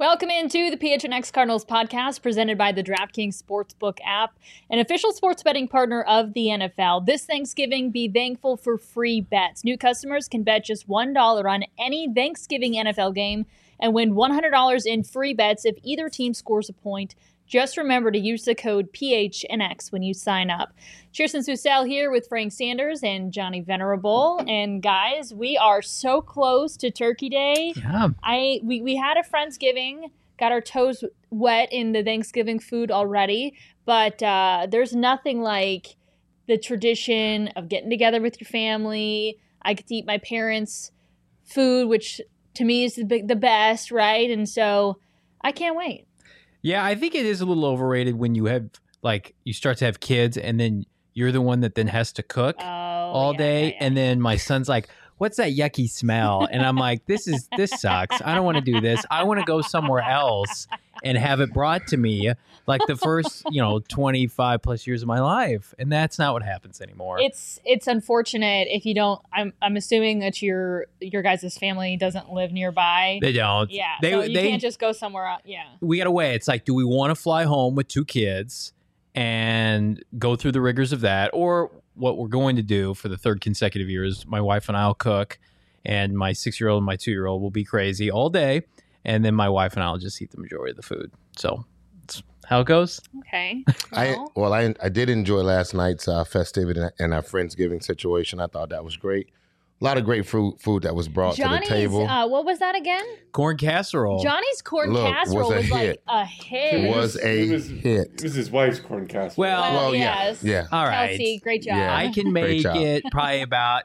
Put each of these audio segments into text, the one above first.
Welcome into the PHNX Cardinals podcast presented by the DraftKings Sportsbook app, an official sports betting partner of the NFL. This Thanksgiving, be thankful for free bets. New customers can bet just $1 on any Thanksgiving NFL game and win $100 in free bets if either team scores a point. Just remember to use the code PHNX when you sign up. Cheerson Susel here with Frank Sanders and Johnny Venerable. And guys, we are so close to Turkey Day. Yeah. We had a Friendsgiving, got our toes wet in the Thanksgiving food already, but there's nothing like the tradition of getting together with your family. I get to eat my parents' food, which to me is the best, right? And so I can't wait. Yeah, I think it is a little overrated when you have, like, you start to have kids and then you're the one that then has to cook all day. And then my son's like, what's that yucky smell? And I'm like, this sucks. I don't want to do this. I want to go somewhere else and have it brought to me like the first, 25 plus years of my life. And that's not what happens anymore. It's unfortunate if you don't. I'm assuming that your guys' family doesn't live nearby. They don't. Yeah. So you can't just go somewhere else. Yeah. We got to weigh. It's like, do we want to fly home with 2 kids and go through the rigors of that? Or what we're going to do for the 3rd consecutive year is my wife and I will cook, and my 6-year-old and my 2-year-old will be crazy all day. And then my wife and I will just eat the majority of the food. So that's how it goes. Okay. I did enjoy last night's festivity and our Friendsgiving situation. I thought that was great. A lot of great food that was brought to the table. What was that again? Corn casserole. Johnny's corn casserole was like a hit. It was a hit. It was his wife's corn casserole. Well, yes. Yeah. All right. Kelsey, great job. Yeah. I can make it probably about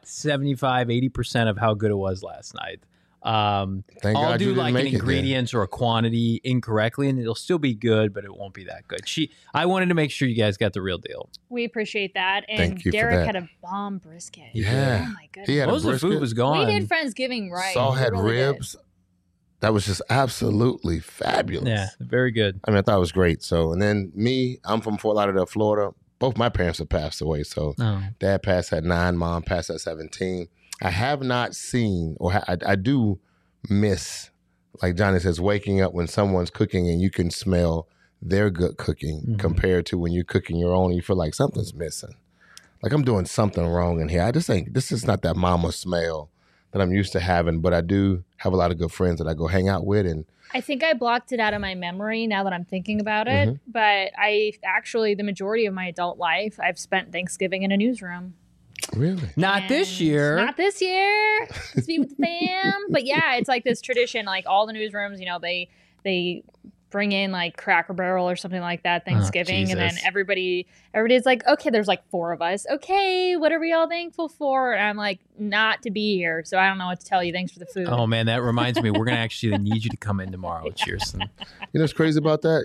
75-80% of how good it was last night. Thank I'll God do you didn't like an make it ingredients or a quantity incorrectly, and it'll still be good, but it won't be that good. I wanted to make sure you guys got the real deal. We appreciate that. And Thank you for Derek that. had a bomb brisket. Yeah. Oh my goodness. He had Most a of the food brisket. was gone. We did Friendsgiving right. Saul We had really did. ribs. That was just absolutely fabulous. Yeah, very good. I mean, I thought it was great. So, and then I'm from Fort Lauderdale, Florida. Both my parents have passed away. So, Oh. Dad passed at 9, Mom passed at 17. I have not seen, or I do miss, like Johnny says, waking up when someone's cooking and you can smell their good cooking compared to when you're cooking your own and you feel like something's missing. Like I'm doing something wrong in here. I just think this is not that mama smell that I'm used to having, but I do have a lot of good friends that I go hang out with. And I think I blocked it out of my memory now that I'm thinking about it. But I actually, the majority of my adult life, I've spent Thanksgiving in a newsroom. really? Not this year. Not this year. Let's be with the fam. But yeah, it's like this tradition. Like all the newsrooms, they bring in like Cracker Barrel or something like that Thanksgiving, and then Jesus. everybody's like, okay, there's like 4 of us. Okay, what are we all thankful for? And I'm like, not to be here, so I don't know what to tell you. Thanks for the food. Oh, man, that reminds me. We're going to actually need you to come in tomorrow, Cheerson. You know what's crazy about that?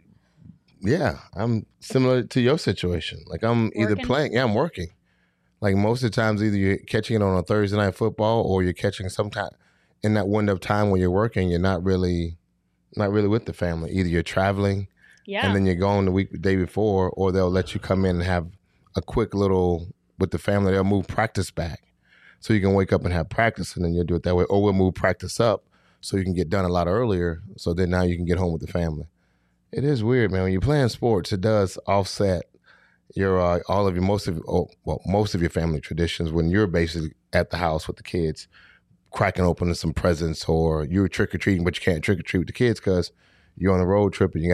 Yeah, I'm similar to your situation. Like I'm either Working? playing, I'm working. Like most of the times, either you're catching it on a Thursday night football or you're catching sometime in that window of time when you're working, you're not really with the family. Either you're traveling Yeah. and then you're going the day before, or they'll let you come in and have a quick little with the family. They'll move practice back so you can wake up and have practice, and then you'll do it that way. Or we'll move practice up so you can get done a lot earlier, so then now you can get home with the family. It is weird, man. When you're playing sports, it does offset your most of your family traditions when you're basically at the house with the kids, cracking open some presents, or you're trick or treating, but you can't trick or treat with the kids because you're on a road trip and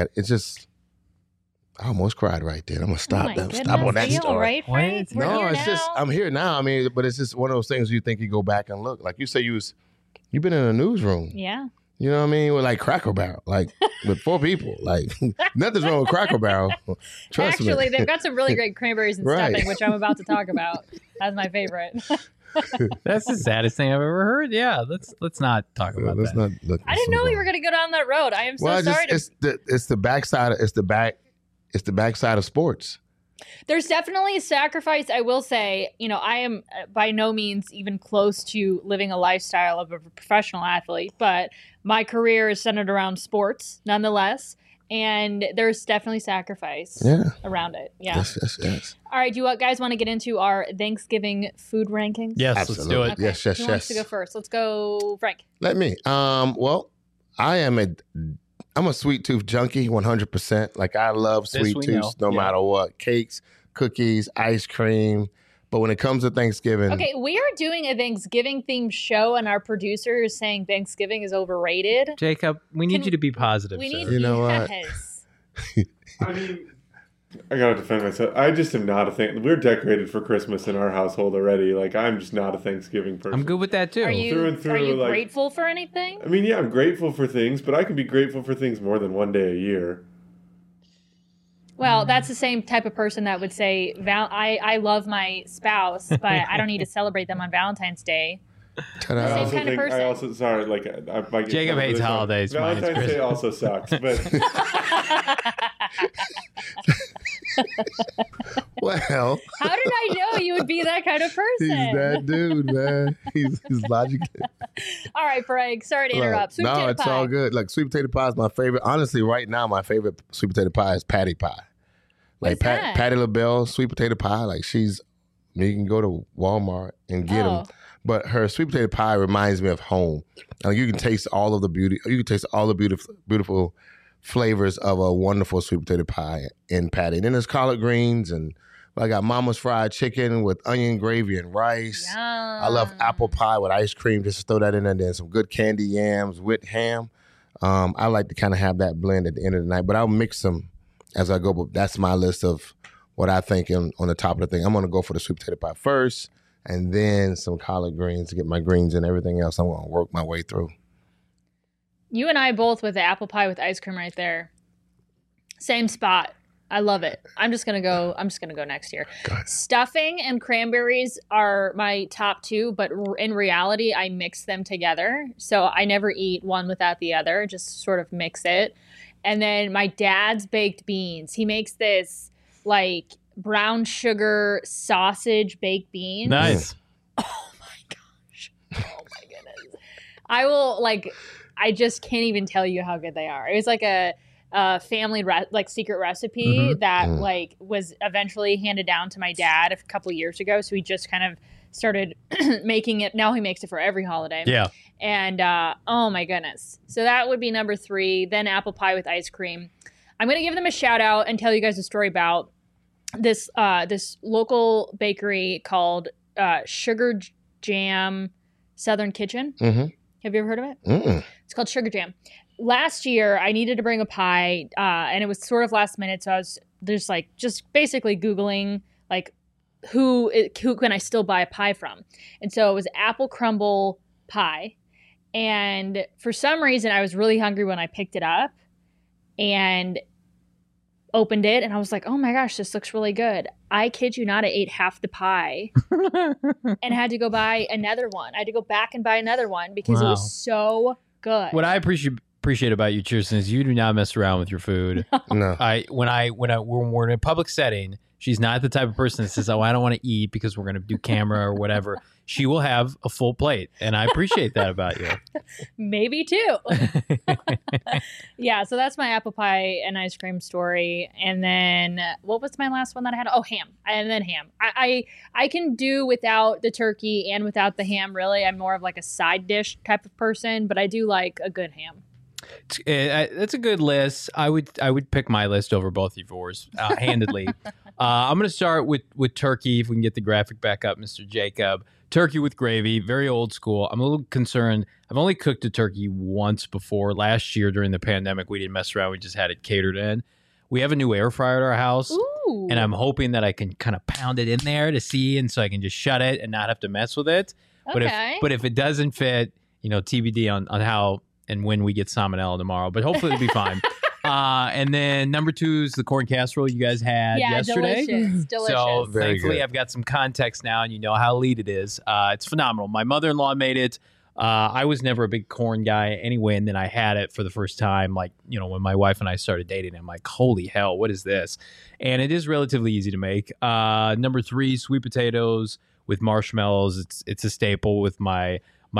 I almost cried right there. I'm gonna stop Oh my Stop on that goodness. Are you all story. right, Frank? Wait. We're No, here it's just now. I'm here now. I mean, but it's just one of those things you think you go back and look. Like you say, you've been in a newsroom. Yeah. You know what I mean? With like Cracker Barrel, like with 4 people. Like nothing's wrong with Cracker Barrel. Trust me. Actually, they've got some really great cranberries and Right. stuffing, which I'm about to talk about. That's my favorite. That's the saddest thing I've ever heard. Yeah, let's not talk about Let's that. not look. I didn't know we were going to go down that road. I am so Well, sorry. it's the backside. It's the backside of sports. There's definitely a sacrifice. I will say, I am by no means even close to living a lifestyle of a professional athlete, but my career is centered around sports nonetheless. And there's definitely sacrifice around it. Yeah. Yes. All right. Do you guys want to get into our Thanksgiving food rankings? Yes, Absolutely. let's do it. Yes. Who wants to go first? Let's go, Frank. Let me. Well, I am a I'm a sweet tooth junkie, 100%. Like I love sweet tooths no matter what. Cakes, cookies, ice cream. But when it comes to Thanksgiving. Okay, we are doing a Thanksgiving themed show and our producer is saying Thanksgiving is overrated. Jacob, we need you to be positive. We need you know what? I mean, I gotta defend myself. I just am not a thing. We're decorated for Christmas in our household already. Like I'm just not a Thanksgiving person. I'm good with that too. Are you, through and through, are you like, grateful for anything? I mean, yeah, I'm grateful for things, but I can be grateful for things more than one day a year. Well, that's the same type of person that would say, I love my spouse, but I don't need to celebrate them on Valentine's Day. I also kind of person. I also, sorry, like, I might get Jacob hates holidays. Valentine's Day also sucks, but. Well. How did I know you would be that kind of person? He's that dude, man. He's logical. All right, Frank. Sorry to interrupt. Sweet potato pie. All good. Like sweet potato pie is my favorite. Honestly, right now, my favorite sweet potato pie is patty pie. Like Patti LaBelle sweet potato pie. Like you can go to Walmart and get them. But her sweet potato pie reminds me of home. Like you can taste all of the beauty. You can taste all the beautiful flavors of a wonderful sweet potato pie in Patty. And then there's collard greens, and I got Mama's fried chicken with onion gravy and rice. Yum. I love apple pie with ice cream. Just throw that in there. And then some good candy yams with ham. I like to kind of have that blend at the end of the night, but I'll mix them as I go. But that's my list of what I think on the top of the thing. I'm going to go for the sweet potato pie first, and then some collard greens to get my greens and everything else. I'm going to work my way through. You and I both with the apple pie with ice cream right there. Same spot. I love it. I'm just gonna go next year. Stuffing and cranberries are my top two, but in reality, I mix them together. So I never eat one without the other. Just sort of mix it. And then my dad's baked beans. He makes this like brown sugar sausage baked beans. Nice. Oh my gosh. Oh my goodness. I just can't even tell you how good they are. It was like a family secret recipe that like was eventually handed down to my dad a couple years ago. So he just kind of started making it. Now he makes it for every holiday. Yeah. And oh my goodness. So that would be number 3. Then apple pie with ice cream. I'm going to give them a shout out and tell you guys a story about this local bakery called Sugar Jam Southern Kitchen. Mm-hmm. Have you ever heard of it? Mm-mm. It's called Sugar Jam. Last year, I needed to bring a pie, and it was sort of last minute, so I was just basically Googling, like, who can I still buy a pie from? And so it was apple crumble pie, and for some reason, I was really hungry when I picked it up, and opened it, and I was like, oh my gosh, this looks really good. I kid you not, I ate half the pie and had to go buy another one. I had to go back and buy another one because it was so good. What I appreciate about you, Kirsten, is you do not mess around with your food. No. When we're in a public setting, she's not the type of person that says, "Oh, I don't want to eat because we're going to do camera or whatever." She will have a full plate, and I appreciate that about you. Maybe too. Yeah, so that's my apple pie and ice cream story. And then what was my last one that I had? Oh, ham. And then ham. I can do without the turkey and without the ham, really. I'm more of like a side dish type of person, but I do like a good ham. That's a good list. I would pick my list over both of yours, handedly. I'm going to start with turkey, if we can get the graphic back up, Mr. Jacob. Turkey with gravy, very old school. I'm a little concerned. I've only cooked a turkey once before. Last year during the pandemic, we didn't mess around. We just had it catered in. We have a new air fryer at our house, and I'm hoping that I can kind of pound it in there to see, and so I can just shut it and not have to mess with it. Okay. But if it doesn't fit, TBD on how and when we get salmonella tomorrow, but hopefully it'll be fine. And then number 2 is the corn casserole you guys had yesterday. Delicious. So Very thankfully good. I've got some context now, and you know how elite it is. It's phenomenal. My mother-in-law made it. I was never a big corn guy anyway, and then I had it for the first time, when my wife and I started dating. I'm like, holy hell, what is this? And it is relatively easy to make. Number 3, sweet potatoes with marshmallows. It's a staple with my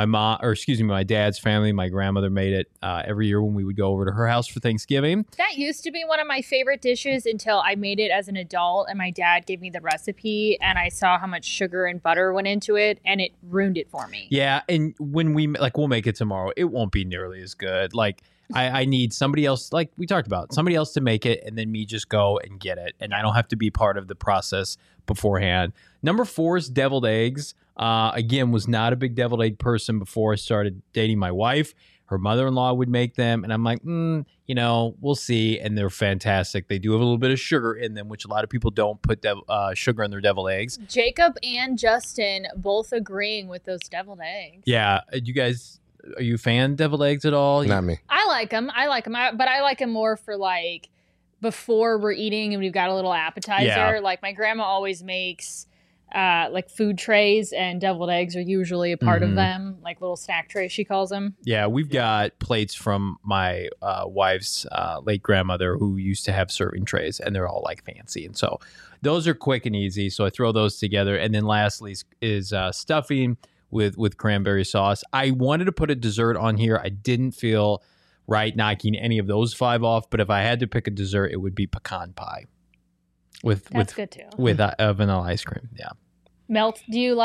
dad's family. My grandmother made it every year when we would go over to her house for Thanksgiving. That used to be one of my favorite dishes until I made it as an adult and my dad gave me the recipe and I saw how much sugar and butter went into it and it ruined it for me. Yeah, and when we'll make it tomorrow, it won't be nearly as good. Like I need somebody else, like we talked about, somebody else to make it, and then me just go and get it, and I don't have to be part of the process beforehand. Number 4 is deviled eggs. Again, was not a big deviled egg person before I started dating my wife. Her mother-in-law would make them, and I'm like, we'll see. And they're fantastic. They do have a little bit of sugar in them, which a lot of people don't put sugar in their deviled eggs. Jacob and Justin both agreeing with those deviled eggs. Yeah, you guys, are you a fan of deviled eggs at all? Not me. I like them. But I like them more for like before we're eating and we've got a little appetizer. Yeah. Like my grandma always makes like food trays, and deviled eggs are usually a part of them, like little snack trays, she calls them. Yeah, we've got plates from my wife's late grandmother who used to have serving trays, and they're all like fancy. And so those are quick and easy. So I throw those together. And then lastly is stuffing with cranberry sauce. I wanted to put a dessert on here. I didn't feel right knocking any of those 5 off, but if I had to pick a dessert, it would be pecan pie That's good too. with vanilla ice cream. Yeah. Do you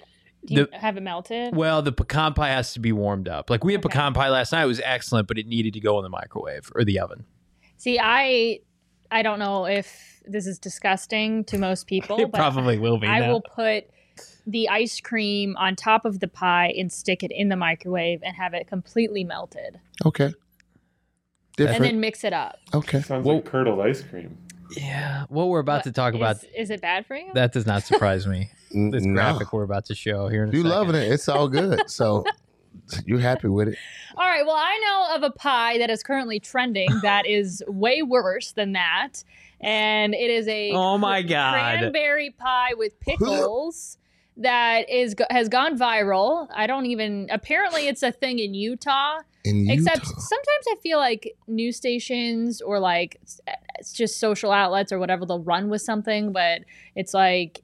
have it melted? Well, the pecan pie has to be warmed up. Like we had pecan pie last night. It was excellent, but it needed to go in the microwave or the oven. See, I don't know if this is disgusting to most people. It probably will be. I will put the ice cream on top of the pie and stick it in the microwave and have it completely melted. Okay. Different. And then mix it up. Okay. Sounds like curdled ice cream. Yeah. What we're about to talk about. Is it bad for you? That does not surprise me. This No. graphic we're about to show here in a You second. loving it. It's all good. So you're happy with it. All right. Well, I know of a pie that is currently trending that is way worse than that. And it is a Oh my God. cranberry pie with pickles that has gone viral. Apparently it's a thing in Utah. Except sometimes I feel like news stations or like it's just social outlets or whatever, they'll run with something, but it's like,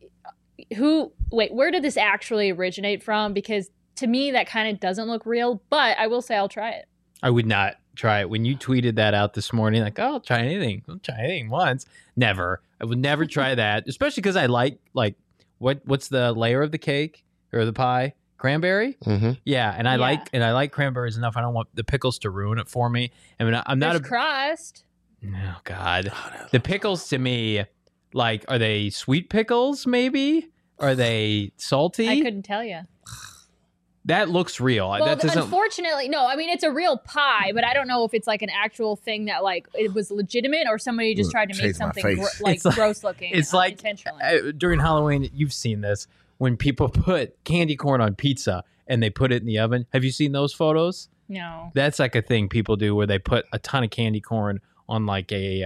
where did this actually originate from? Because to me, that kind of doesn't look real, but I will say I'll try it. I would not try it. When you tweeted that out this morning, like, I'll try anything once. Never. I would never try that, especially because I like what's the layer of the cake or the pie? Cranberry? Mm-hmm. Yeah, and I like cranberries enough. I don't want the pickles to ruin it for me. I mean, I'm not There's crust. Oh God, the pickles to me, like, are they sweet pickles? Maybe are they salty? I couldn't tell you. That looks real. Well, that doesn't. Unfortunately, no. I mean, it's a real pie, but I don't know if it's like an actual thing that like it was legitimate or somebody just tried to make something gross looking. It's like intentionally. During Halloween, you've seen this when people put candy corn on pizza and they put it in the oven. Have you seen those photos? No. That's like a thing people do where they put a ton of candy corn on like a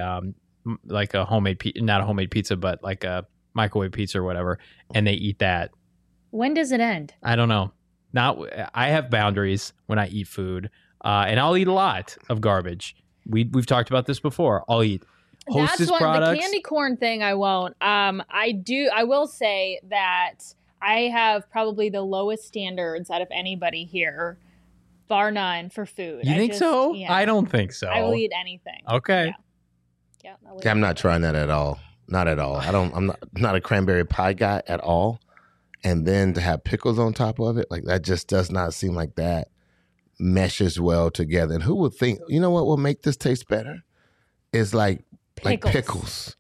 homemade not a homemade pizza, but like a microwave pizza or whatever, and they eat that. When does it end? I don't know. I have boundaries when I eat food, and I'll eat a lot of garbage. We've talked about this before. I'll eat Hostess products. The candy corn thing I won't. I will say that I have probably the lowest standards out of anybody here, bar none, for food. You think so? Yeah. I don't think so. I will eat anything. Okay. Yeah. I'm not trying that at all. Not at all. I'm not a cranberry pie guy at all. And then to have pickles on top of it, like that just does not seem like that meshes well together. And who would think, you know what will make this taste better? Is like pickles.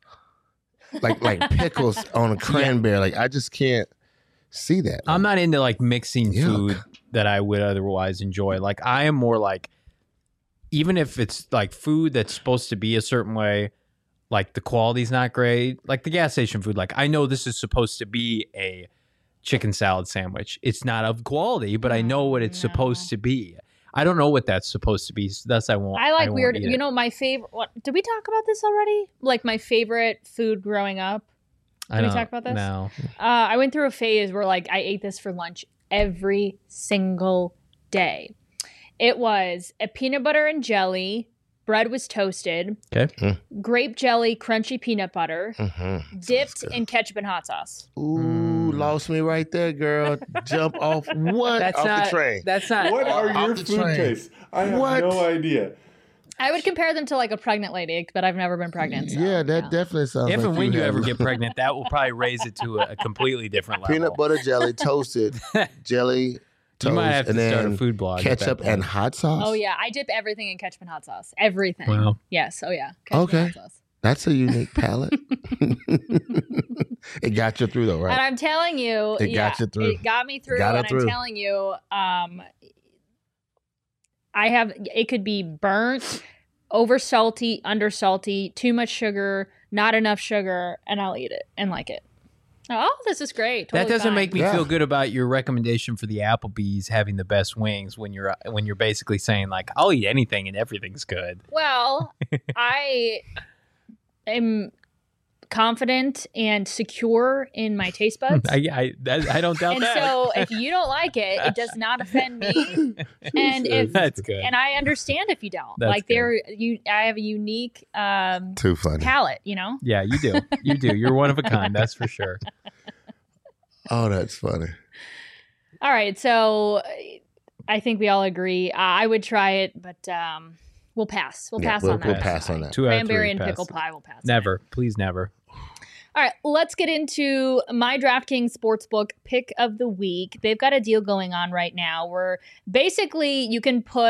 Like pickles on a cranberry. Like I just can't see that. I'm not into like mixing food that I would otherwise enjoy. Like I am more like, even if it's like food that's supposed to be a certain way, like the quality's not great, like the gas station food. Like I know this is supposed to be a chicken salad sandwich. It's not of quality, but I know what it's supposed to be. I don't know what that's supposed to be. So thus I won't. I like weird. You know, my favorite. Did we talk about this already? Like my favorite food growing up. Did we talk about this? No. I went through a phase where like I ate this for lunch every single day. It was a peanut butter and jelly. Bread was toasted. Okay. Grape jelly, crunchy peanut butter, dipped in ketchup and hot sauce. Ooh, lost me right there, girl. Jump off the train. That's not. What are your food tastes? I have no idea. I would compare them to like a pregnant lady, but I've never been pregnant. So, yeah, that definitely sounds if like and when you ever get pregnant, that will probably raise it to a completely different level. Peanut butter jelly, toasted jelly, toast, You might have and to start a then food blog at that ketchup point. and hot sauce. Oh yeah, I dip everything in ketchup and hot sauce. Everything. Wow. Yes. Oh yeah. Ketchup and hot sauce. That's a unique palate. It got you through though, right? And I'm telling you, It got you through. It got me through. Got it and through. I'm telling you, it could be burnt, over salty, under salty, too much sugar, not enough sugar, and I'll eat it and like it. Oh, this is great. That Totally doesn't fine. make me Yeah. feel good about your recommendation for the Applebee's having the best wings when you're basically saying like I'll eat anything and everything's good. Well, I am confident and secure in my taste buds. I don't doubt And that. so if you don't like it, it does not offend me. And if That's good. and I understand if you don't. That's like good. I have a unique Too funny. palate, you know? Yeah, you do. You do. You're one of a kind. That's for sure. Oh, that's funny. All right, so I think we all agree. I would try it, but we'll pass. We'll pass on that. We'll pass on that. 2 out of 3 Cranberry and pass. pickle pie will pass. Never. Please never. All right, let's get into my DraftKings Sportsbook pick of the week. They've got a deal going on right now where basically you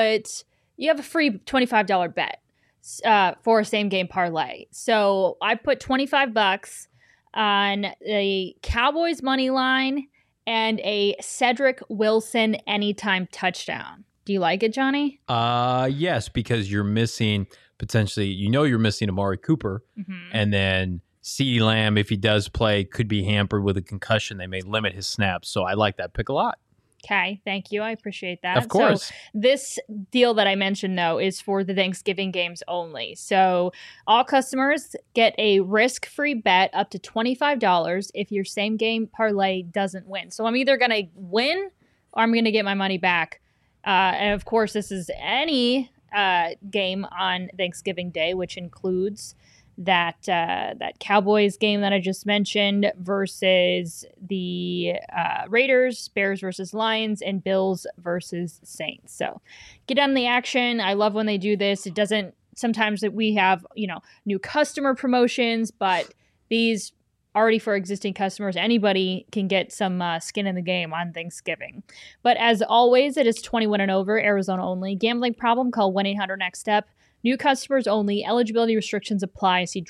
have a free $25 bet for a same game parlay. So I put $25 on a Cowboys money line and a Cedric Wilson anytime touchdown. Do you like it, Johnny? Yes, because you're missing potentially, you're missing Amari Cooper, and then CeeDee Lamb, if he does play, could be hampered with a concussion. They may limit his snaps. So I like that pick a lot. Okay, thank you. I appreciate that. Of course. So this deal that I mentioned, though, is for the Thanksgiving games only. So all customers get a risk-free bet up to $25 if your same game parlay doesn't win. So I'm either going to win or I'm going to get my money back. And of course, this is any game on Thanksgiving Day, which includes that Cowboys game that I just mentioned versus the Raiders, Bears versus Lions, and Bills versus Saints. So get on the action. I love when they do this. It doesn't sometimes that we have, new customer promotions, but these already for existing customers, anybody can get some skin in the game on Thanksgiving. But as always, it is 21 and over, Arizona only. Gambling problem? Call 1-800-NEXT-STEP. New customers only. Eligibility restrictions apply. See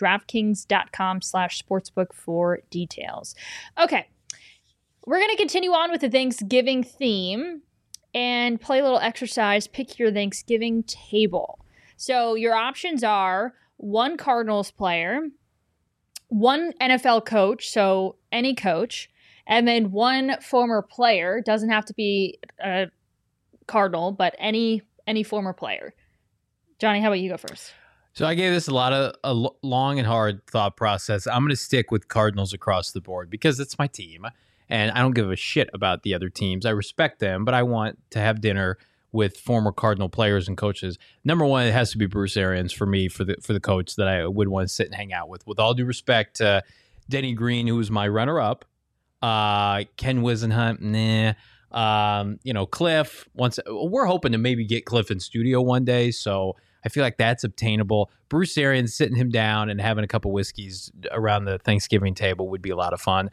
DraftKings.com/sportsbook for details. Okay, we're going to continue on with the Thanksgiving theme and play a little exercise. Pick your Thanksgiving table. So your options are one Cardinals player, one NFL coach, so any coach, and then one former player. Doesn't have to be a Cardinal, but any former player. Johnny, how about you go first? So I gave this a long and hard thought process. I'm going to stick with Cardinals across the board because it's my team, and I don't give a shit about the other teams. I respect them, but I want to have dinner with former Cardinal players and coaches. Number one, it has to be Bruce Arians for me, for the coach that I would want to sit and hang out with. With all due respect to Denny Green, who was my runner-up, Ken Wisenhunt, nah. Cliff. We're hoping to maybe get Cliff in studio one day, so I feel like that's obtainable. Bruce Arians sitting him down and having a couple whiskeys around the Thanksgiving table would be a lot of fun.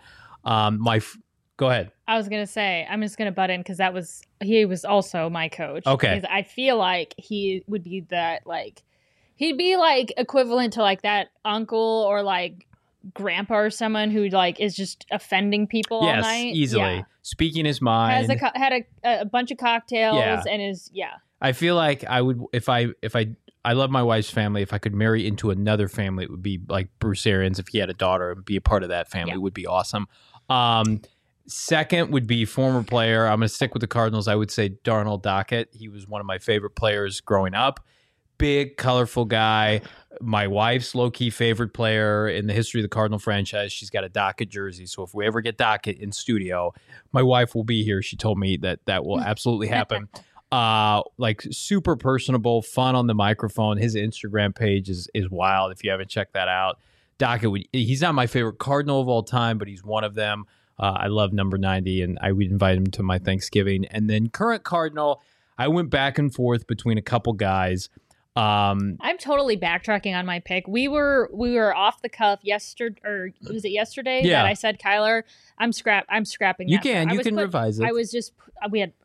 Go ahead. I was gonna say I'm just gonna butt in because he was also my coach. Okay. Because I feel like he would be that he'd be equivalent to that uncle or grandpa or someone who is just offending people all night. Easily. Yeah. Speaking his mind. Had a bunch of cocktails and is I feel like I would if I love my wife's family. If I could marry into another family, it would be like Bruce Arians. If he had a daughter and be a part of that family, would be awesome. Second would be former player. I'm going to stick with the Cardinals. I would say Darnell Dockett. He was one of my favorite players growing up. Big, colorful guy. My wife's low-key favorite player in the history of the Cardinal franchise. She's got a Dockett jersey. So if we ever get Dockett in studio, my wife will be here. She told me that will absolutely happen. Super personable, fun on the microphone. His Instagram page is wild if you haven't checked that out. Dockett, he's not my favorite Cardinal of all time, but he's one of them. I love number 90, and I would invite him to my Thanksgiving. And then current Cardinal, I went back and forth between a couple guys. I'm totally backtracking on my pick. We were off the cuff yesterday, or was it yesterday that I said Kyler? I'm scrapping. You can revise it. I was just we had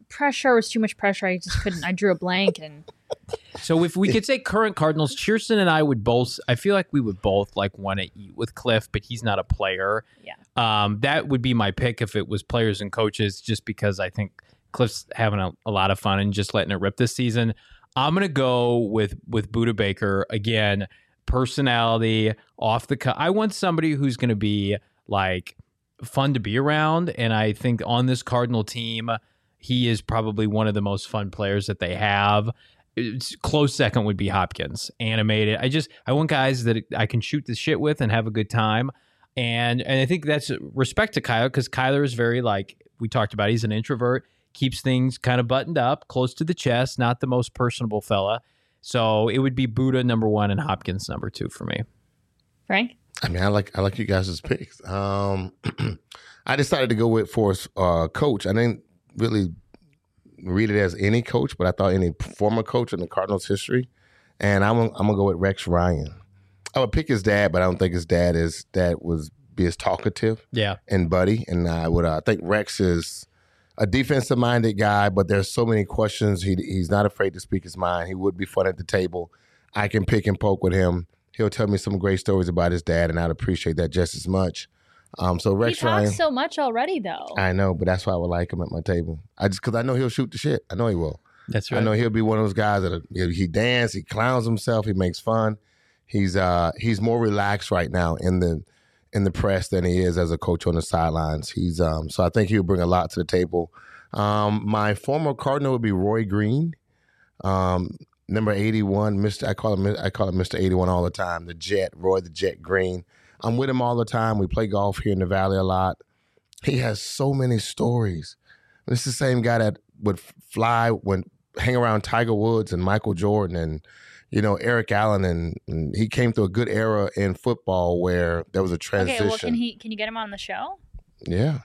pressure was too much pressure. I just couldn't. I drew a blank. And so if we could say current Cardinals, Cheerson and I would both. I feel like we would both like want to eat with Cliff, but he's not a player. Yeah. That would be my pick if it was players and coaches, just because I think Cliff's having a lot of fun and just letting it rip this season. I'm gonna go with Budda Baker again. Personality, off the cut. I want somebody who's gonna be like fun to be around, and I think on this Cardinal team, he is probably one of the most fun players that they have. Close second would be Hopkins. Animated. I want guys that I can shoot the shit with and have a good time. And I think that's respect to Kyler, because Kyler is very, like we talked about, he's an introvert, keeps things kind of buttoned up, close to the chest, not the most personable fella. So it would be Budda number 1 and Hopkins number 2 for me. Frank? I mean, I like you guys' picks. I decided to go with for coach. I didn't really read it as any coach, but I thought any former coach in the Cardinals history. And I'm gonna go with Rex Ryan. I would pick his dad, but I don't think his dad was be as talkative. Yeah. And buddy. And I think Rex is a defensive minded guy, but there's so many questions. He's not afraid to speak his mind. He would be fun at the table. I can pick and poke with him. He'll tell me some great stories about his dad, and I'd appreciate that just as much. So Rex Ryan. He talks so much already, though. I know, but that's why I would like him at my table. Because I know he'll shoot the shit. I know he will. That's right. I know he'll be one of those guys that he dances, he clowns himself, he makes fun. He's more relaxed right now in the press than he is as a coach on the sidelines. So I think he'll bring a lot to the table. My former Cardinal would be Roy Green. Number 81, I call him Mr. 81 all the time. The Jet, Roy the Jet Green. I'm with him all the time. We play golf here in the Valley a lot. He has so many stories. This is the same guy that would hang around Tiger Woods and Michael Jordan and Eric Allen, and he came through a good era in football where there was a transition. Okay, well, can you get him on the show? Yeah.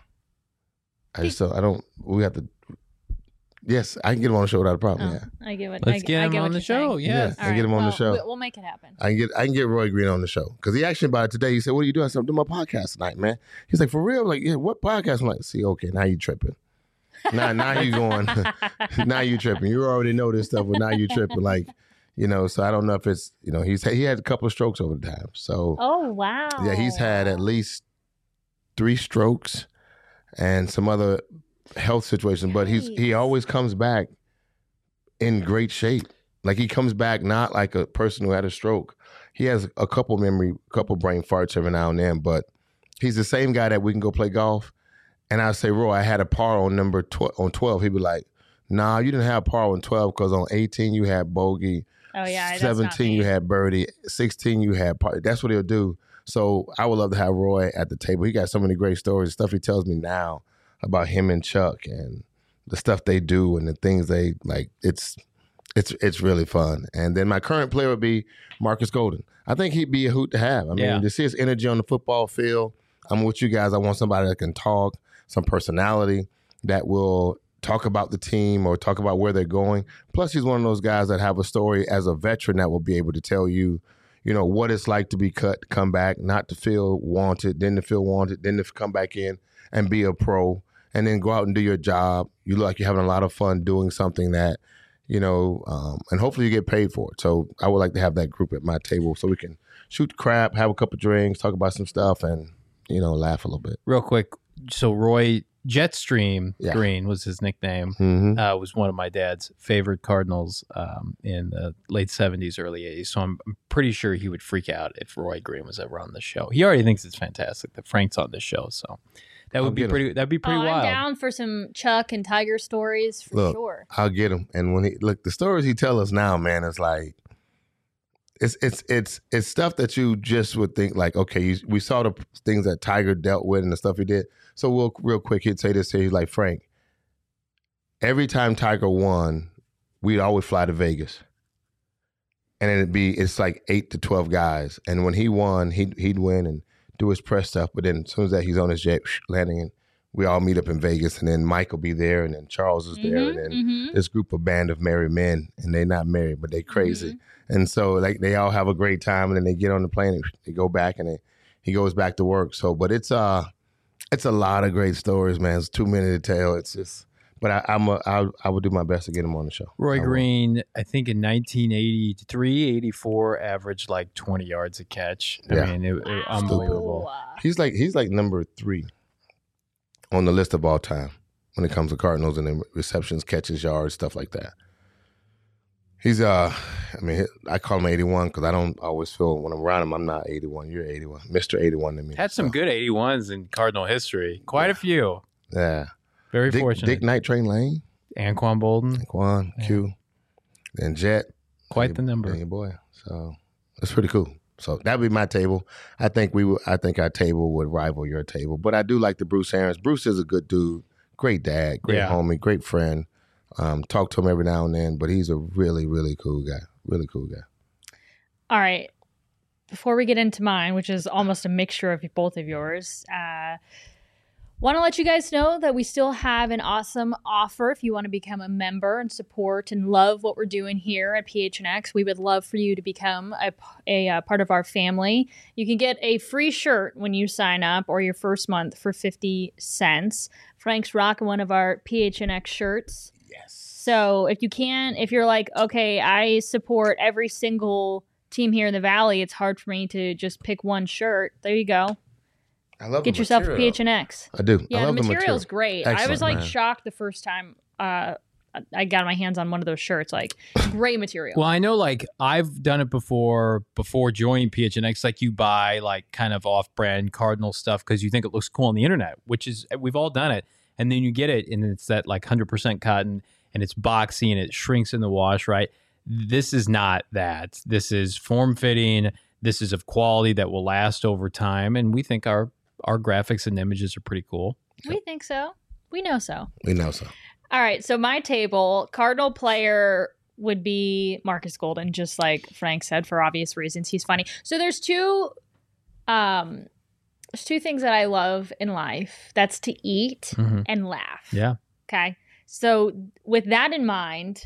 We have to. Yes, I can get him on the show without a problem. Yeah, I get what. Let's get him on the show. Yes, I can get him on the show. We'll make it happen. I can get Roy Green on the show because he asked me about it today. He said, "What are you doing?" I said, "I'm doing my podcast tonight, man." He's like, "For real?" I'm like, "Yeah, what podcast?" I'm like, "See, okay, now you tripping. Now you going. Now you tripping. You already know this stuff, but now you tripping. Like, So I don't know if it's he had a couple of strokes over the time. So oh wow, yeah, he's had at least 3 strokes and some other health situation, but he always comes back in great shape. Like he comes back not like a person who had a stroke. He has a couple brain farts every now and then, but he's the same guy that we can go play golf. And I say, Roy, I had a par on number 12. He'd be like, nah, you didn't have par on 12 because on 18 you had bogey. Oh yeah, 17 you had birdie. 16 you had par. That's what he'll do. So I would love to have Roy at the table. He got so many great stories, stuff he tells me now about him and Chuck and the stuff they do and the things they like. It's really fun. And then my current player would be Marcus Golden. I think he'd be a hoot to have. I mean, to see his energy on the football field. I'm with you guys. I want somebody that can talk, some personality that will talk about the team or talk about where they're going. Plus, he's one of those guys that have a story as a veteran that will be able to tell you, what it's like to be cut, come back, not to feel wanted, then to feel wanted, then to come back in and be a pro. And then go out and do your job. You look like you're having a lot of fun doing something that, and hopefully you get paid for it. So I would like to have that group at my table so we can shoot crap, have a couple of drinks, talk about some stuff, and, laugh a little bit. Real quick. So Roy Jetstream Green was his nickname. Mm-hmm. Was one of my dad's favorite Cardinals in the late 70s, early 80s. So I'm pretty sure he would freak out if Roy Green was ever on the show. He already thinks it's fantastic that Frank's on this show. So that would be pretty. That'd be pretty wild. I'm down for some Chuck and Tiger stories for sure. I'll get him. And when the stories he tells us now, man, it's like it's stuff that you just would think like, okay, we saw the things that Tiger dealt with and the stuff he did. So real quick, he'd say this here. He's like, Frank, every time Tiger won, we'd always fly to Vegas. And it's like 8 to 12 guys. And when he won, he'd win and do his press stuff, but then as soon as that he's on his jet landing, and we all meet up in Vegas, and then Mike will be there, and then Charles is there, and then this band of married men, and they're not married, but they crazy, and so like they all have a great time, and then they get on the plane and they go back, and he goes back to work. So, but it's a lot of great stories, man. It's too many to tell. It's just But I would do my best to get him on the show. Roy Green, I think in 1983, 84, averaged like 20 yards a catch. Yeah. I mean, it unbelievable. He's like number 3 on the list of all time when it comes to Cardinals and then receptions, catches, yards, stuff like that. He's I call him 81 because I don't always feel when I'm around him I'm not 81. You're 81, Mr. 81 to me. Had some good 81s in Cardinal history. Quite a few. Yeah. Very fortunate. Dick Night Train Lane. Anquan Bolden. Anquan, Q. And Jet. Quite the number. Your boy. So it's pretty cool. So that would be my table. I think our table would rival your table. But I do like the Bruce Arians. Bruce is a good dude. Great dad. Great homie. Great friend. Talk to him every now and then. But he's a really, really cool guy. Really cool guy. All right. Before we get into mine, which is almost a mixture of both of yours, want to let you guys know that we still have an awesome offer if you want to become a member and support and love what we're doing here at PHNX. We would love for you to become a part of our family. You can get a free shirt when you sign up or your first month for 50 cents. Frank's rocking one of our PHNX shirts. Yes. So if you're like, okay, I support every single team here in the Valley, it's hard for me to just pick one shirt. There you go. I love Get yourself a PHNX. I do. Yeah, I love the material's great. Excellent, I was like man. shocked the first time I got my hands on one of those shirts. Like, great material. Well, I know like I've done it before joining PHNX. Like you buy like kind of off-brand Cardinal stuff because you think it looks cool on the internet, which is we've all done it. And then you get it and it's that like 100% cotton and it's boxy and it shrinks in the wash, right? This is not that. This is form-fitting. This is of quality that will last over time. And we think our graphics and images are pretty cool. We think so. We know so. We know so. All right. So my table, Cardinal player would be Marcus Golden, just like Frank said, for obvious reasons. He's funny. So there's two things that I love in life. That's to eat and laugh. Yeah. Okay. So with that in mind,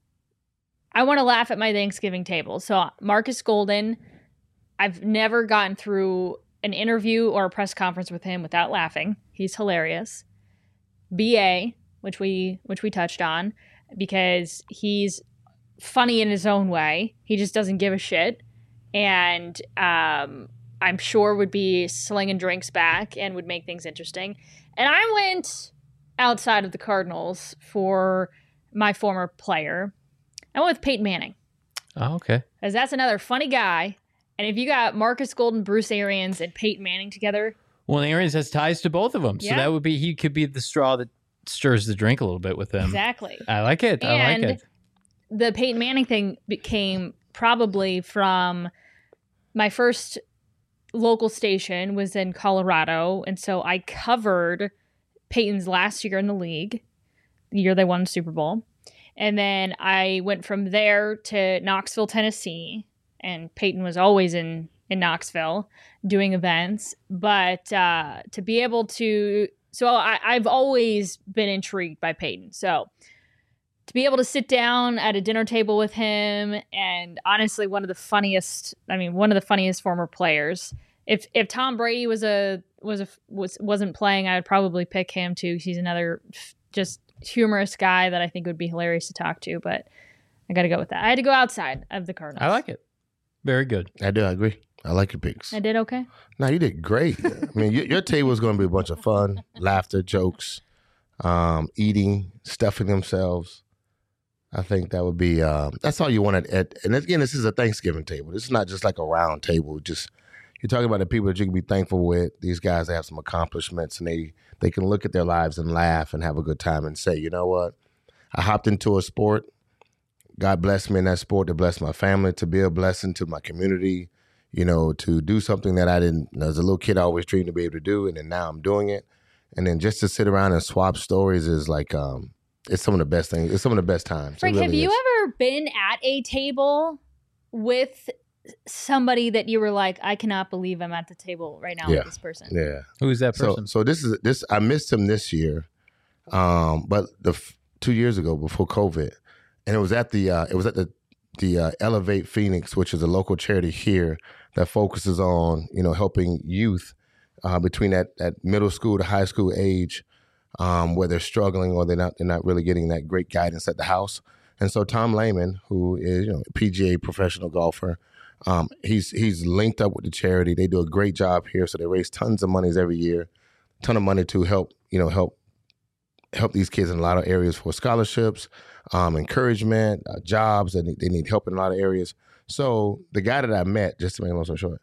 I want to laugh at my Thanksgiving table. So Marcus Golden, I've never gotten through an interview or a press conference with him without laughing. He's hilarious. BA, which we touched on, because he's funny in his own way. He just doesn't give a shit. And I'm sure would be slinging drinks back and would make things interesting. And I went outside of the Cardinals for my former player. I went with Peyton Manning. Oh, okay. Because that's another funny guy. And if you got Marcus Golden, Bruce Arians, and Peyton Manning together. Well, Arians has ties to both of them. So that would be, he could be the straw that stirs the drink a little bit with them. Exactly. I like it. And the Peyton Manning thing came probably from my first local station was in Colorado. And so I covered Peyton's last year in the league, the year they won the Super Bowl. And then I went from there to Knoxville, Tennessee. And Peyton was always in Knoxville doing events. But to be able to... So I've always been intrigued by Peyton. So to be able to sit down at a dinner table with him, and honestly, one of the funniest former players. If Tom Brady wasn't playing, I would probably pick him too. He's another just humorous guy that I think would be hilarious to talk to. But I got to go with that. I had to go outside of the Cardinals. I like it. Very good. I do. I agree. I like your picks. I did okay. No, you did great. I mean, your table is going to be a bunch of fun, laughter, jokes, eating, stuffing themselves. I think that would be, that's all you want and again, this is a Thanksgiving table. This is not just like a round table. Just, you're talking about the people that you can be thankful with. These guys that have some accomplishments and they can look at their lives and laugh and have a good time and say, you know what? I hopped into a sport. God blessed me in that sport to bless my family, to be a blessing to my community, you know, to do something that I didn't, as a little kid, I always dreamed to be able to do. And then now I'm doing it. And then just to sit around and swap stories is like, it's some of the best things. It's some of the best times. Frank, have you ever been at a table with somebody that you were like, I cannot believe I'm at the table right now with this person? Yeah. Who is that person? So this I missed him this year, but 2 years ago before COVID, and it was at the Elevate Phoenix, which is a local charity here that focuses on helping youth between that middle school to high school age. where they're struggling or they're not really getting that great guidance at the house. And so Tom Lehman, who is a PGA professional golfer, he's linked up with the charity. They do a great job here, so they raise tons of monies every year, ton of money to help these kids in a lot of areas for scholarships, encouragement, jobs. They need help in a lot of areas. So the guy that I met, just to make a long story short,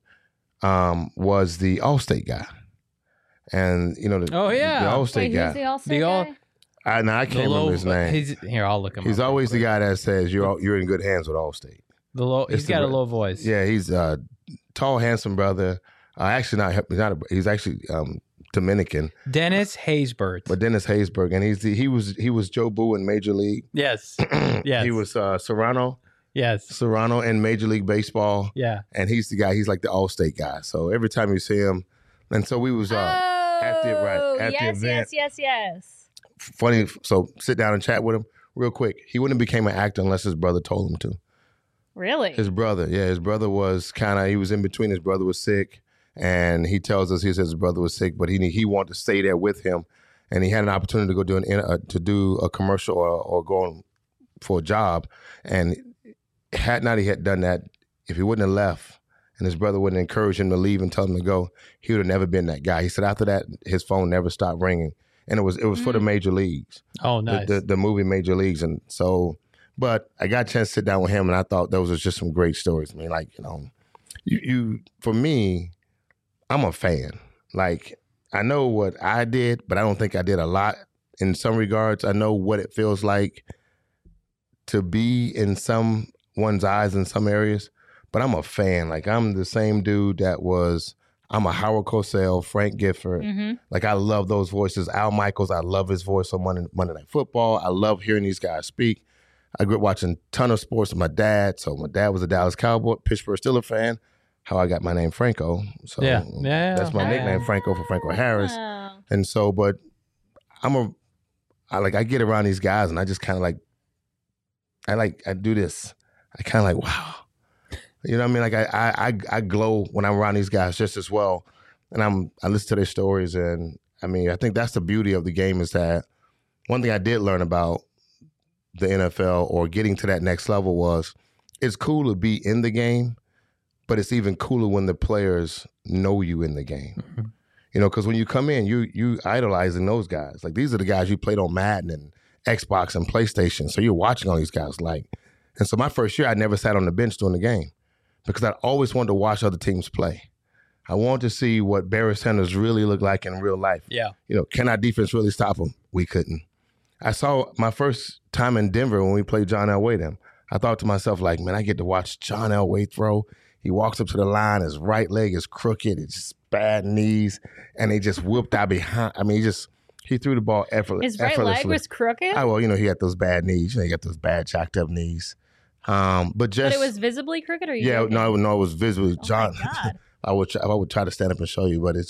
was the Allstate guy. And the Allstate guy. Who's the Allstate guy? I can't remember his name. Here, I'll look him up. He's always the guy that says you're in good hands with Allstate. He's got a low voice. Yeah, he's a tall, handsome brother. He's actually Dominican. Dennis Haysbert. But Dennis Haysbert, and he was Joe Boo in Major League. Yes. Yes. He was Serrano. Yes. Serrano in Major League Baseball. Yeah. And he's the guy. He's like the Allstate guy. So every time you see him, and so we was at the event. Yes. Funny. So sit down and chat with him real quick. He wouldn't have became an actor unless his brother told him to. Really? His brother. Yeah, his brother was he was in between. His brother was sick. And he tells us, he says his brother was sick, but he wanted to stay there with him. And he had an opportunity to go do a commercial or go on for a job. And he had done that, if he wouldn't have left and his brother wouldn't encourage him to leave and tell him to go, he would have never been that guy. He said after that, his phone never stopped ringing. And it was for the major leagues. Oh, nice. The movie Major Leagues. And so, but I got a chance to sit down with him, and I thought those was just some great stories. I mean, like, you for me, I'm a fan. Like, I know what I did, but I don't think I did a lot in some regards. I know what it feels like to be in someone's eyes in some areas, but I'm a fan. Like, I'm the same dude I'm a Howard Cosell, Frank Gifford. Mm-hmm. Like, I love those voices. Al Michaels, I love his voice on Monday Night Football. I love hearing these guys speak. I grew up watching a ton of sports with my dad. So my dad was a Dallas Cowboy, Pittsburgh Steelers fan. How I got my name Franco. So that's my nickname, Franco, for Franco Harris. Wow. And so, but I get around these guys and I just kind of I do this. I kind of wow. You know what I mean? Like I glow when I'm around these guys just as well. And I listen to their stories. And I mean, I think that's the beauty of the game, is that one thing I did learn about the NFL or getting to that next level was it's cool to be in the game, but it's even cooler when the players know you in the game. Mm-hmm. Because when you come in, you idolizing those guys. Like, these are the guys you played on Madden and Xbox and PlayStation. So you're watching all these guys. And so my first year, I never sat on the bench during the game because I always wanted to watch other teams play. I wanted to see what Barry Sanders really looked like in real life. Yeah. Can our defense really stop him? We couldn't. I saw my first time in Denver when we played John Elway. I thought to myself, man, I get to watch John Elway throw. He walks up to the line, his right leg is crooked, it's just bad knees, and they just whooped out behind. I mean, he threw the ball effortlessly. His right leg was crooked? He had those bad knees. He got those bad, jacked up knees. But it was visibly crooked, or no, it was visibly. Oh, John, I would try to stand up and show you, but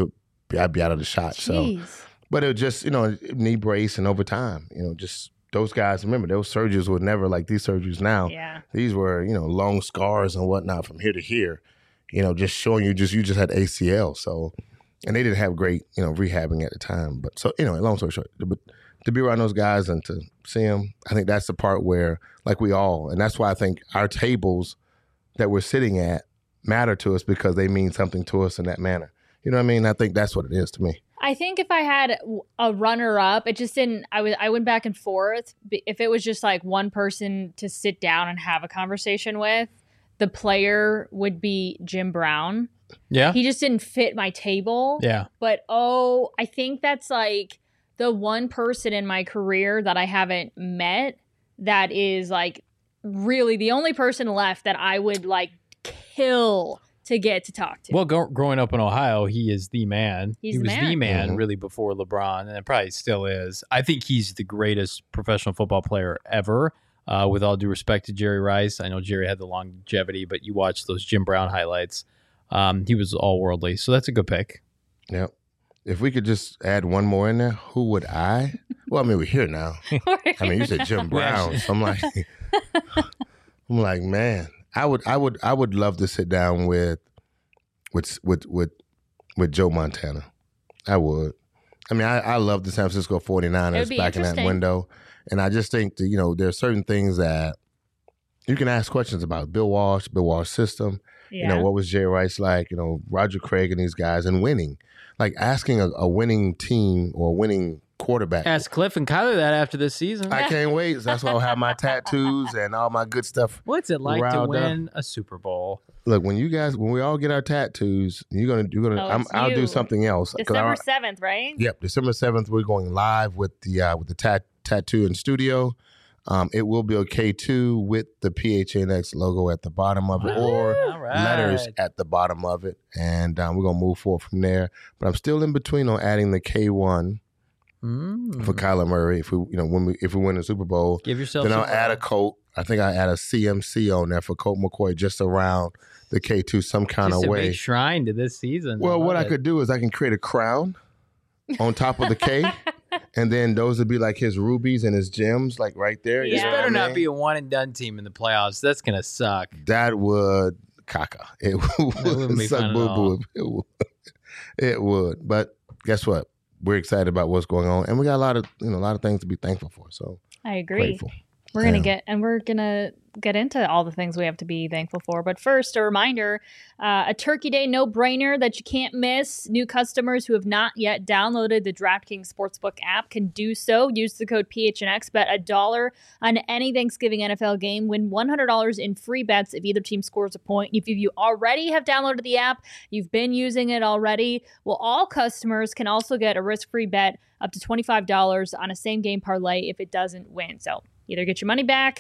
I'd be out of the shot. Jeez. So, but it was just, knee brace, and over time, just those guys. Remember, those surgeries were never like these surgeries now. Yeah. These were, long scars and whatnot from here to here. Just showing you just had ACL. So, and they didn't have great, rehabbing at the time. But so, long story short, but to be around those guys and to see them, I think that's the part where, and that's why I think our tables that we're sitting at matter to us, because they mean something to us in that manner. You know what I mean? I think that's what it is to me. I think if I had a runner-up, it just didn't. I went back and forth. If it was just one person to sit down and have a conversation with, the player would be Jim Brown. Yeah, he just didn't fit my table. Yeah, but I think that's the one person in my career that I haven't met that is really the only person left that I would kill to get to talk to. Well, growing up in Ohio, he is the man. He was the man mm-hmm. really before LeBron, and it probably still is. I think he's the greatest professional football player ever. With all due respect to Jerry Rice, I know Jerry had the longevity, but you watch those Jim Brown highlights. He was all worldly, so that's a good pick. Yep. If we could just add one more in there, who would I? Well, I mean, we're here now. I mean, you said Jim Brown, so I'm like, man, I would love to sit down with Joe Montana. I would. I mean, I love the San Francisco 49ers back in that window. And I just think that, there are certain things that you can ask questions about. Bill Walsh system. Yeah. What was Jay Rice like? Roger Craig and these guys, and winning. Like asking a winning team or a winning quarterback. Ask Cliff and Kyler that after this season. I can't wait. That's why I'll have my tattoos and all my good stuff. What's it like to win a Super Bowl? Look, when we all get our tattoos, I'll do something else. December 7th, right? Yep, December 7th. We're going live with the tattoo in studio. It will be a K2 with the PHNX logo at the bottom of it, or letters at the bottom of it, and we're gonna move forward from there. But I'm still in between on adding the K1 for Kyler Murray. If we win the Super Bowl, give yourself. Then I'll add a Colt. I think I add a CMC on there for Colt McCoy, just around the K2 some kind of way. Just a big shrine to this season. Well, what I could do is I can create a crown on top of the K. And then those would be like his rubies and his gems, like right there. This better not be a one and done team in the playoffs. That's gonna suck. That would caca. It would suck boo boo. It would. But guess what? We're excited about what's going on, and we got a lot of things to be thankful for. So I agree. Grateful. We're gonna get into all the things we have to be thankful for. But first, a reminder, a Turkey Day no-brainer that you can't miss. New customers who have not yet downloaded the DraftKings Sportsbook app can do so. Use the code PHNX, bet $1 on any Thanksgiving NFL game. Win $100 in free bets if either team scores a point. If you already have downloaded the app, you've been using it already, well, all customers can also get a risk-free bet up to $25 on a same-game parlay if it doesn't win. So either get your money back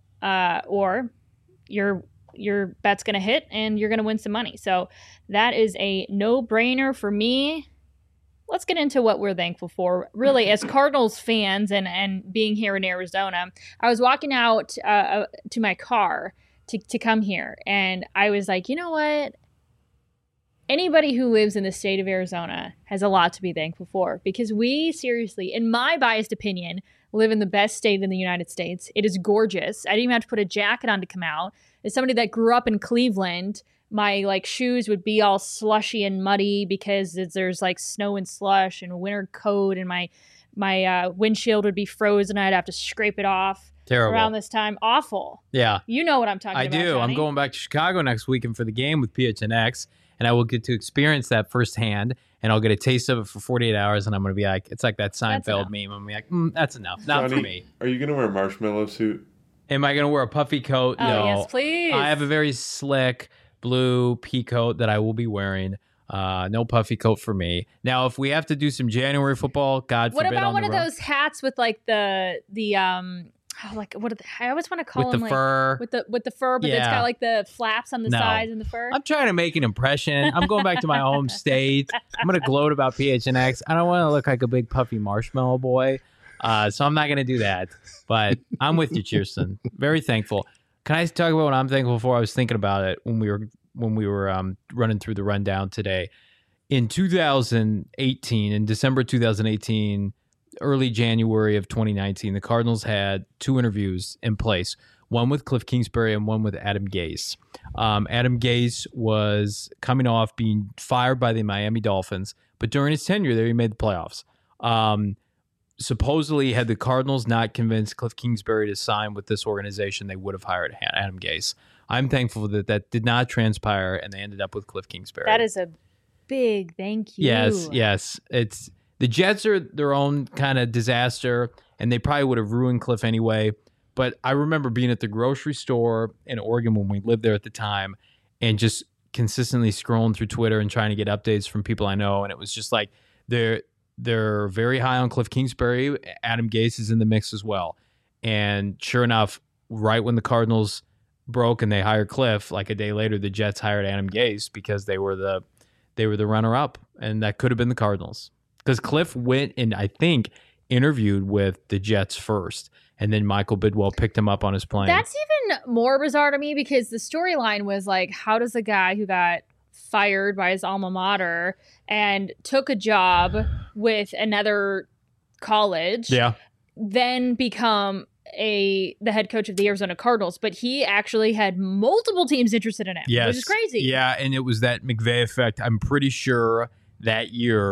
or your bet's going to hit and you're going to win some money. So that is a no-brainer for me. Let's get into what we're thankful for. Really, as Cardinals fans and being here in Arizona, I was walking out to my car to come here, and I was like, you know what? Anybody who lives in the state of Arizona has a lot to be thankful for, because we seriously, in my biased opinion, live in the best state in the United States. It is gorgeous. I didn't even have to put a jacket on to come out. As somebody that grew up in Cleveland, my shoes would be all slushy and muddy because there's snow and slush and a winter coat, and my windshield would be frozen. I'd have to scrape it off. Terrible. Around this time. Awful. Yeah. You know what I'm talking about, I do. Johnny. I'm going back to Chicago next weekend for the game with PHNX, and I will get to experience that firsthand, and I'll get a taste of it for 48 hours, and I'm going to be like, it's like that Seinfeld meme. I'm going to be like, that's enough. Not Johnny, for me. Are you going to wear a marshmallow suit? Am I going to wear a puffy coat? Oh, no. yes, please. I have a very slick blue pea coat that I will be wearing. No puffy coat for me. Now, if we have to do some January football, God forbid. What about one of those hats with I always want to call them fur. with the fur, but it's got the flaps on the sides and the fur. I'm trying to make an impression. I'm going back to my home state. I'm going to gloat about PHNX. I don't want to look like a big puffy marshmallow boy, so I'm not going to do that. But I'm with you, Kirsten. Very thankful. Can I talk about what I'm thankful for? I was thinking about it when we were running through the rundown today. In 2018, in December 2018. Early January of 2019, the Cardinals had 2 interviews in place, one with Cliff Kingsbury and one with Adam Gase. Adam Gase was coming off being fired by the Miami Dolphins, but during his tenure there, he made the playoffs. Supposedly, had the Cardinals not convinced Cliff Kingsbury to sign with this organization, they would have hired Adam Gase. I'm thankful that did not transpire, and they ended up with Cliff Kingsbury. That is a big thank you. Yes. The Jets are their own kind of disaster, and they probably would have ruined Cliff anyway. But I remember being at the grocery store in Oregon when we lived there at the time, and just consistently scrolling through Twitter and trying to get updates from people I know. And it was just like they're very high on Cliff Kingsbury. Adam Gase is in the mix as well. And sure enough, right when the Cardinals broke and they hired Cliff, like a day later, the Jets hired Adam Gase because they were the runner-up, and that could have been the Cardinals. Because Cliff went and, I think, interviewed with the Jets first, and then Michael Bidwell picked him up on his plane. That's even more bizarre to me, because the storyline was how does a guy who got fired by his alma mater and took a job with another college then become the head coach of the Arizona Cardinals? But he actually had multiple teams interested in him, which is crazy. Yeah, and it was that McVay effect. I'm pretty sure that year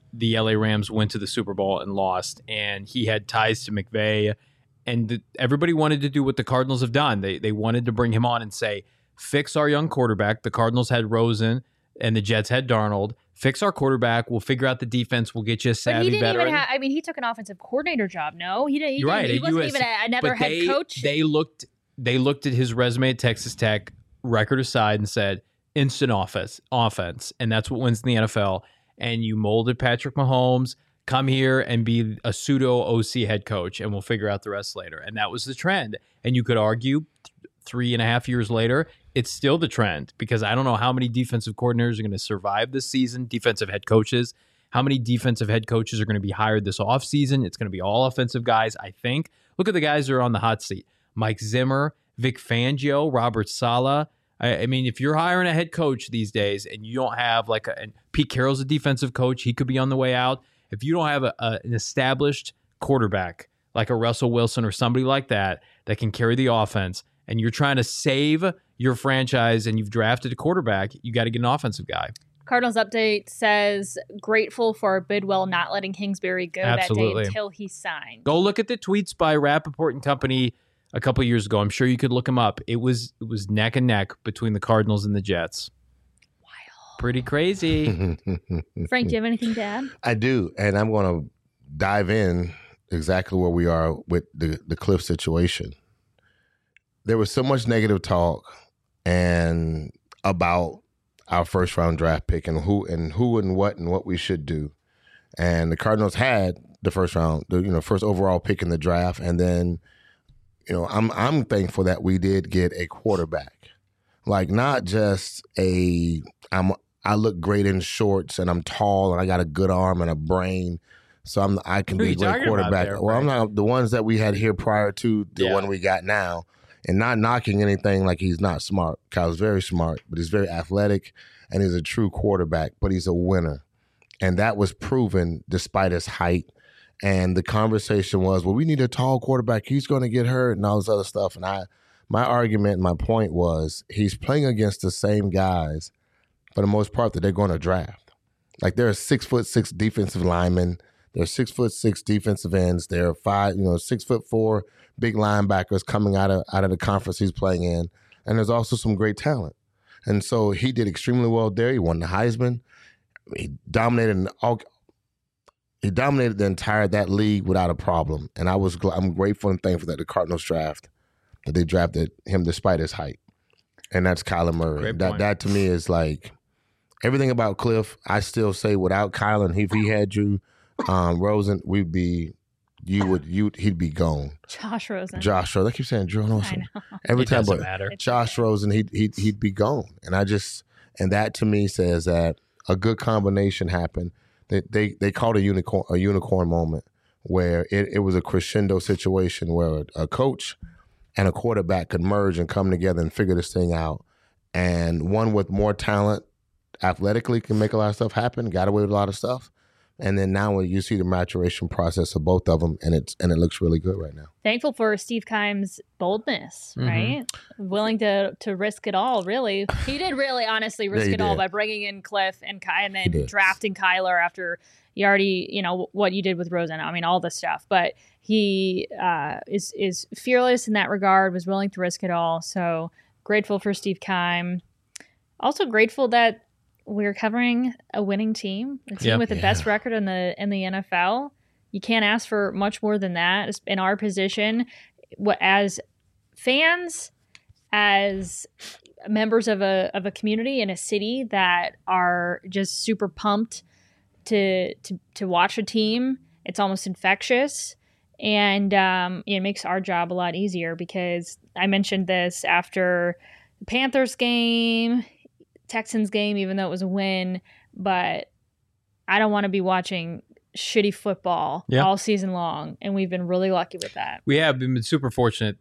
the LA Rams went to the Super Bowl and lost, and he had ties to McVay, and everybody wanted to do what the Cardinals have done. They wanted to bring him on and say, fix our young quarterback. The Cardinals had Rosen and the Jets had Darnold. Fix our quarterback. We'll figure out the defense. We'll get you a savvy But he didn't veteran. even have, I mean, he took an offensive coordinator job. No, he didn't. You're right. He wasn't even another head coach. They looked at his resume at Texas Tech, record aside, and said, instant offense. And that's what wins in the NFL. And you molded Patrick Mahomes, come here and be a pseudo OC head coach, and we'll figure out the rest later. And that was the trend. And you could argue 3.5 years later, it's still the trend, because I don't know how many defensive coordinators are going to survive this season, defensive head coaches. How many defensive head coaches are going to be hired this offseason? It's going to be all offensive guys, I think. Look at the guys that are on the hot seat. Mike Zimmer, Vic Fangio, Robert Saleh. I mean, if you're hiring a head coach these days and you don't have and Pete Carroll's a defensive coach, he could be on the way out. If you don't have an established quarterback like a Russell Wilson or somebody like that can carry the offense, and you're trying to save your franchise and you've drafted a quarterback, you got to get an offensive guy. Cardinals update says, grateful for Bidwell not letting Kingsbury go that day until he signed. Go look at the tweets by Rappaport and company a couple of years ago. I'm sure you could look him up. It was neck and neck between the Cardinals and the Jets. Wild. Pretty crazy. Frank, do you have anything to add? I do, and I'm going to dive in exactly where we are with the Cliff situation. There was so much negative talk and about our first round draft pick and who and what we should do. And the Cardinals had the first round, first overall pick in the draft, and then I'm thankful that we did get a quarterback, like not just I look great in shorts and I'm tall and I got a good arm and a brain, so I can be a great quarterback. I'm not the ones that we had here prior to the one we got now. And not knocking anything like he's not smart. Kyle's very smart, but he's very athletic, and he's a true quarterback, but he's a winner. And that was proven despite his height. And the conversation was, well, we need a tall quarterback. He's going to get hurt and all this other stuff. And my argument, my point was, he's playing against the same guys, for the most part, that they're going to draft. Like, there are 6'6" defensive linemen. There are 6'6" defensive ends. There are 6'4" big linebackers coming out of the conference he's playing in, and there's also some great talent. And so he did extremely well there. He won the Heisman. He dominated the entire that league without a problem. And I'm grateful and thankful that the Cardinals that they drafted him despite his height. And that's Kyler Murray. That to me is like everything about Cliff. I still say without Kyler, and if he had you, Rosen, he'd be gone. Josh Rosen. I keep saying Drew Rosen every time, but Josh Rosen, he'd be gone. And that to me says that a good combination happened. They called a unicorn moment where it was a crescendo situation where a coach and a quarterback could merge and come together and figure this thing out. And one with more talent athletically can make a lot of stuff happen. Got away with a lot of stuff. And then now you see the maturation process of both of them, and it looks really good right now. Thankful for Steve Keim's boldness, right? Willing to risk it all, really. He did really honestly risk it all by bringing in Cliff and then drafting Kyler after you already, what you did with Rosen. I mean, all this stuff. But he is fearless in that regard, was willing to risk it all. So grateful for Steve Keim. Also grateful that we're covering a winning team, a team with the best record in the NFL. You can't ask for much more than that in our position. As fans, as members of a community in a city that are just super pumped to watch a team, it's almost infectious, and it makes our job a lot easier, because I mentioned this after the Panthers game, Texans game, even though it was a win, but I don't want to be watching shitty football all season long, and we've been really lucky with that. We have been super fortunate.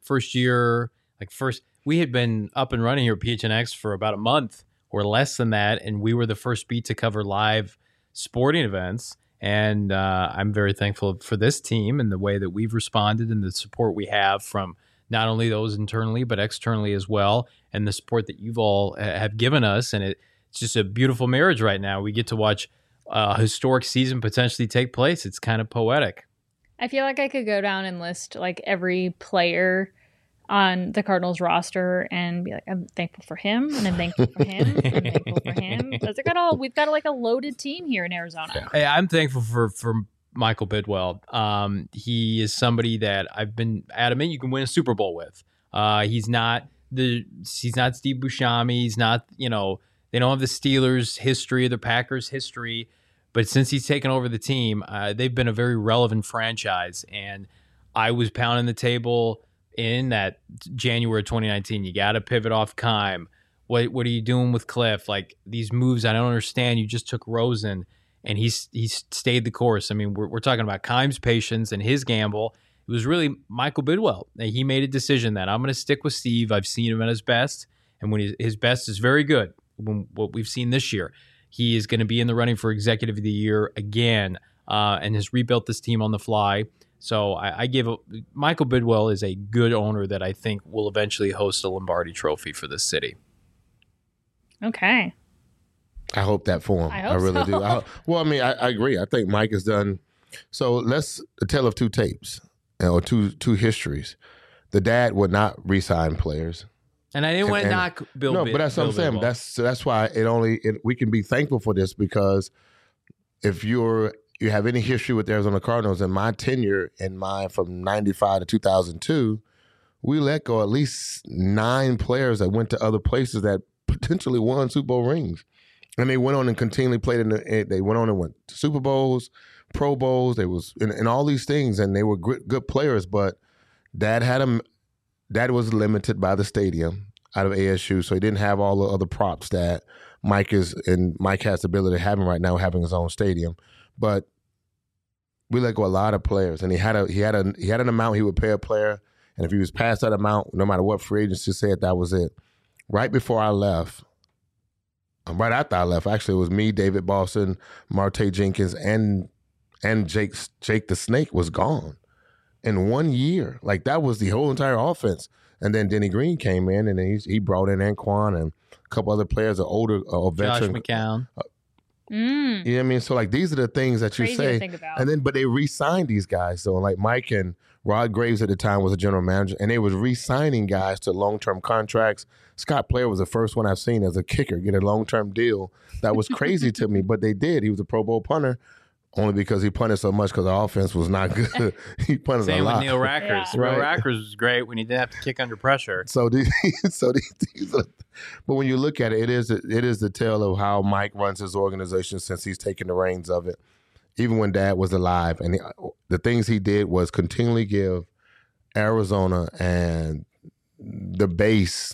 We had been up and running here at PHNX for about a month or less than that, and we were the first beat to cover live sporting events, and I'm very thankful for this team and the way that we've responded and the support we have from not only those internally, but externally as well, and the support that you've all have given us. And it's just a beautiful marriage right now. We get to watch a historic season potentially take place. It's kind of poetic. I feel like I could go down and list like every player on the Cardinals roster and be like, I'm thankful for him, and I'm thankful for him, and I'm thankful for him. Because we've got like a loaded team here in Arizona. Hey, I'm thankful for Michael Bidwell. He is somebody that I've been adamant you can win a Super Bowl with. He's not Steve Buscemi. He's not, they don't have the Steelers history, the Packers history. But since he's taken over the team, they've been a very relevant franchise. And I was pounding the table in that January 2019. You got to pivot off Keim. What are you doing with Cliff? Like, these moves, I don't understand. You just took Rosen, and he's stayed the course. I mean, we're talking about Keim's patience and his gamble. It was really Michael Bidwell. He made a decision that I'm going to stick with Steve. I've seen him at his best, and when his best is very good. What we've seen this year, he is going to be in the running for Executive of the Year again, and has rebuilt this team on the fly. So I give Michael Bidwell is a good owner that I think will eventually host a Lombardi Trophy for this city. Okay. I hope that for him. I really do. I agree. I think Mike has done. So let's tell of two tapes or two histories. The dad would not re-sign players. And I didn't want to knock Bill. No, but that's what I'm saying. That's why we can be thankful for this, because if you have any history with the Arizona Cardinals, in my tenure from 95 to 2002, we let go at least 9 players that went to other places that potentially won Super Bowl rings. And they went on and continually played they went on and went to Super Bowls, Pro Bowls, they was in all these things, and they were good players, but Dad was limited by the stadium out of ASU, so he didn't have all the other props that Mike has the ability of having right now, having his own stadium. But we let go a lot of players, and he had an amount he would pay a player, and if he was past that amount, no matter what free agency said, that was it. Right before I left, right after I left, actually, it was me, David Boston, Marte Jenkins, and Jake the Snake was gone in 1 year. Like, that was the whole entire offense. And then Denny Green came in, and he brought in Anquan and a couple other players, older veteran. Josh McCown. You know what I mean? So, like, these are the things that you say. But they re-signed these guys. So, like, Mike and Rod Graves at the time was a general manager, and they was re-signing guys to long-term contracts. Scott Player was the first one I've seen as a kicker get a long-term deal. That was crazy to me, but they did. He was a Pro Bowl punter. Only because he punted so much, because the offense was not good. He punted a lot. Same with Neil Rackers. Yeah. Neil Rackers was great when he didn't have to kick under pressure. So these but when you look at it, it is the tale of how Mike runs his organization since he's taken the reins of it. Even when Dad was alive, and the things he did was continually give Arizona and the base,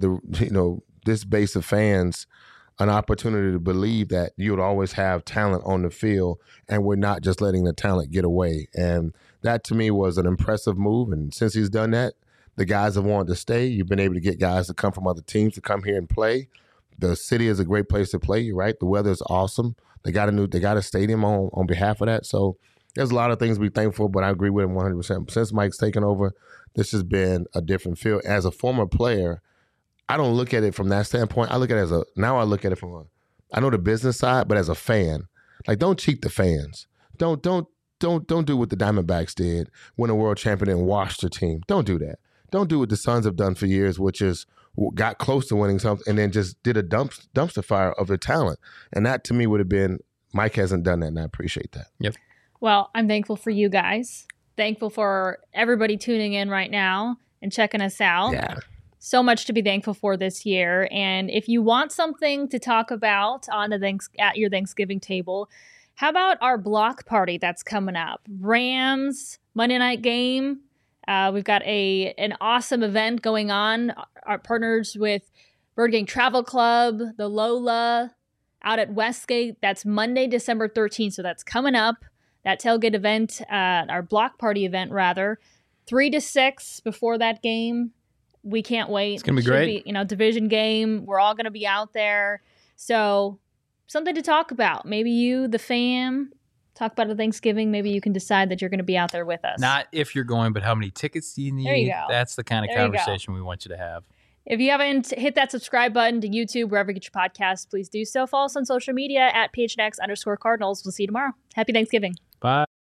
this base of fans, an opportunity to believe that you would always have talent on the field, and we're not just letting the talent get away. And that, to me, was an impressive move. And since he's done that, the guys have wanted to stay. You've been able to get guys to come from other teams to come here and play. The city is a great place to play, right? The weather is awesome. They got a stadium on behalf of that. So there's a lot of things to be thankful, but I agree with him 100%. Since Mike's taken over, this has been a different feel. As a former player, I don't look at it from that standpoint. I look at it I look at it from I know the business side, but as a fan, like, don't cheat the fans. Don't do what the Diamondbacks did, win a world champion and wash the team. Don't do that. Don't do what the Suns have done for years, which is got close to winning something and then just did a dumpster fire of their talent. And that, to me, would have been, Mike hasn't done that, and I appreciate that. Yep. Well, I'm thankful for you guys. Thankful for everybody tuning in right now and checking us out. Yeah. So much to be thankful for this year. And if you want something to talk about at your Thanksgiving table, how about our block party that's coming up? Rams Monday night game. We've got an awesome event going on. Our partners with Bird Gang Travel Club, the Lola, out at Westgate. That's Monday, December 13th. So that's coming up. That tailgate event, our block party event, rather. 3 to 6 before that game. We can't wait. It's going to be great. Division game. We're all going to be out there. So something to talk about. Maybe you, the fam, talk about it Thanksgiving. Maybe you can decide that you're going to be out there with us. Not if you're going, but how many tickets do you need? There you go. That's the kind of conversation we want you to have. If you haven't hit that subscribe button to YouTube, wherever you get your podcasts, please do so. Follow us on social media at PHNX_Cardinals. We'll see you tomorrow. Happy Thanksgiving. Bye.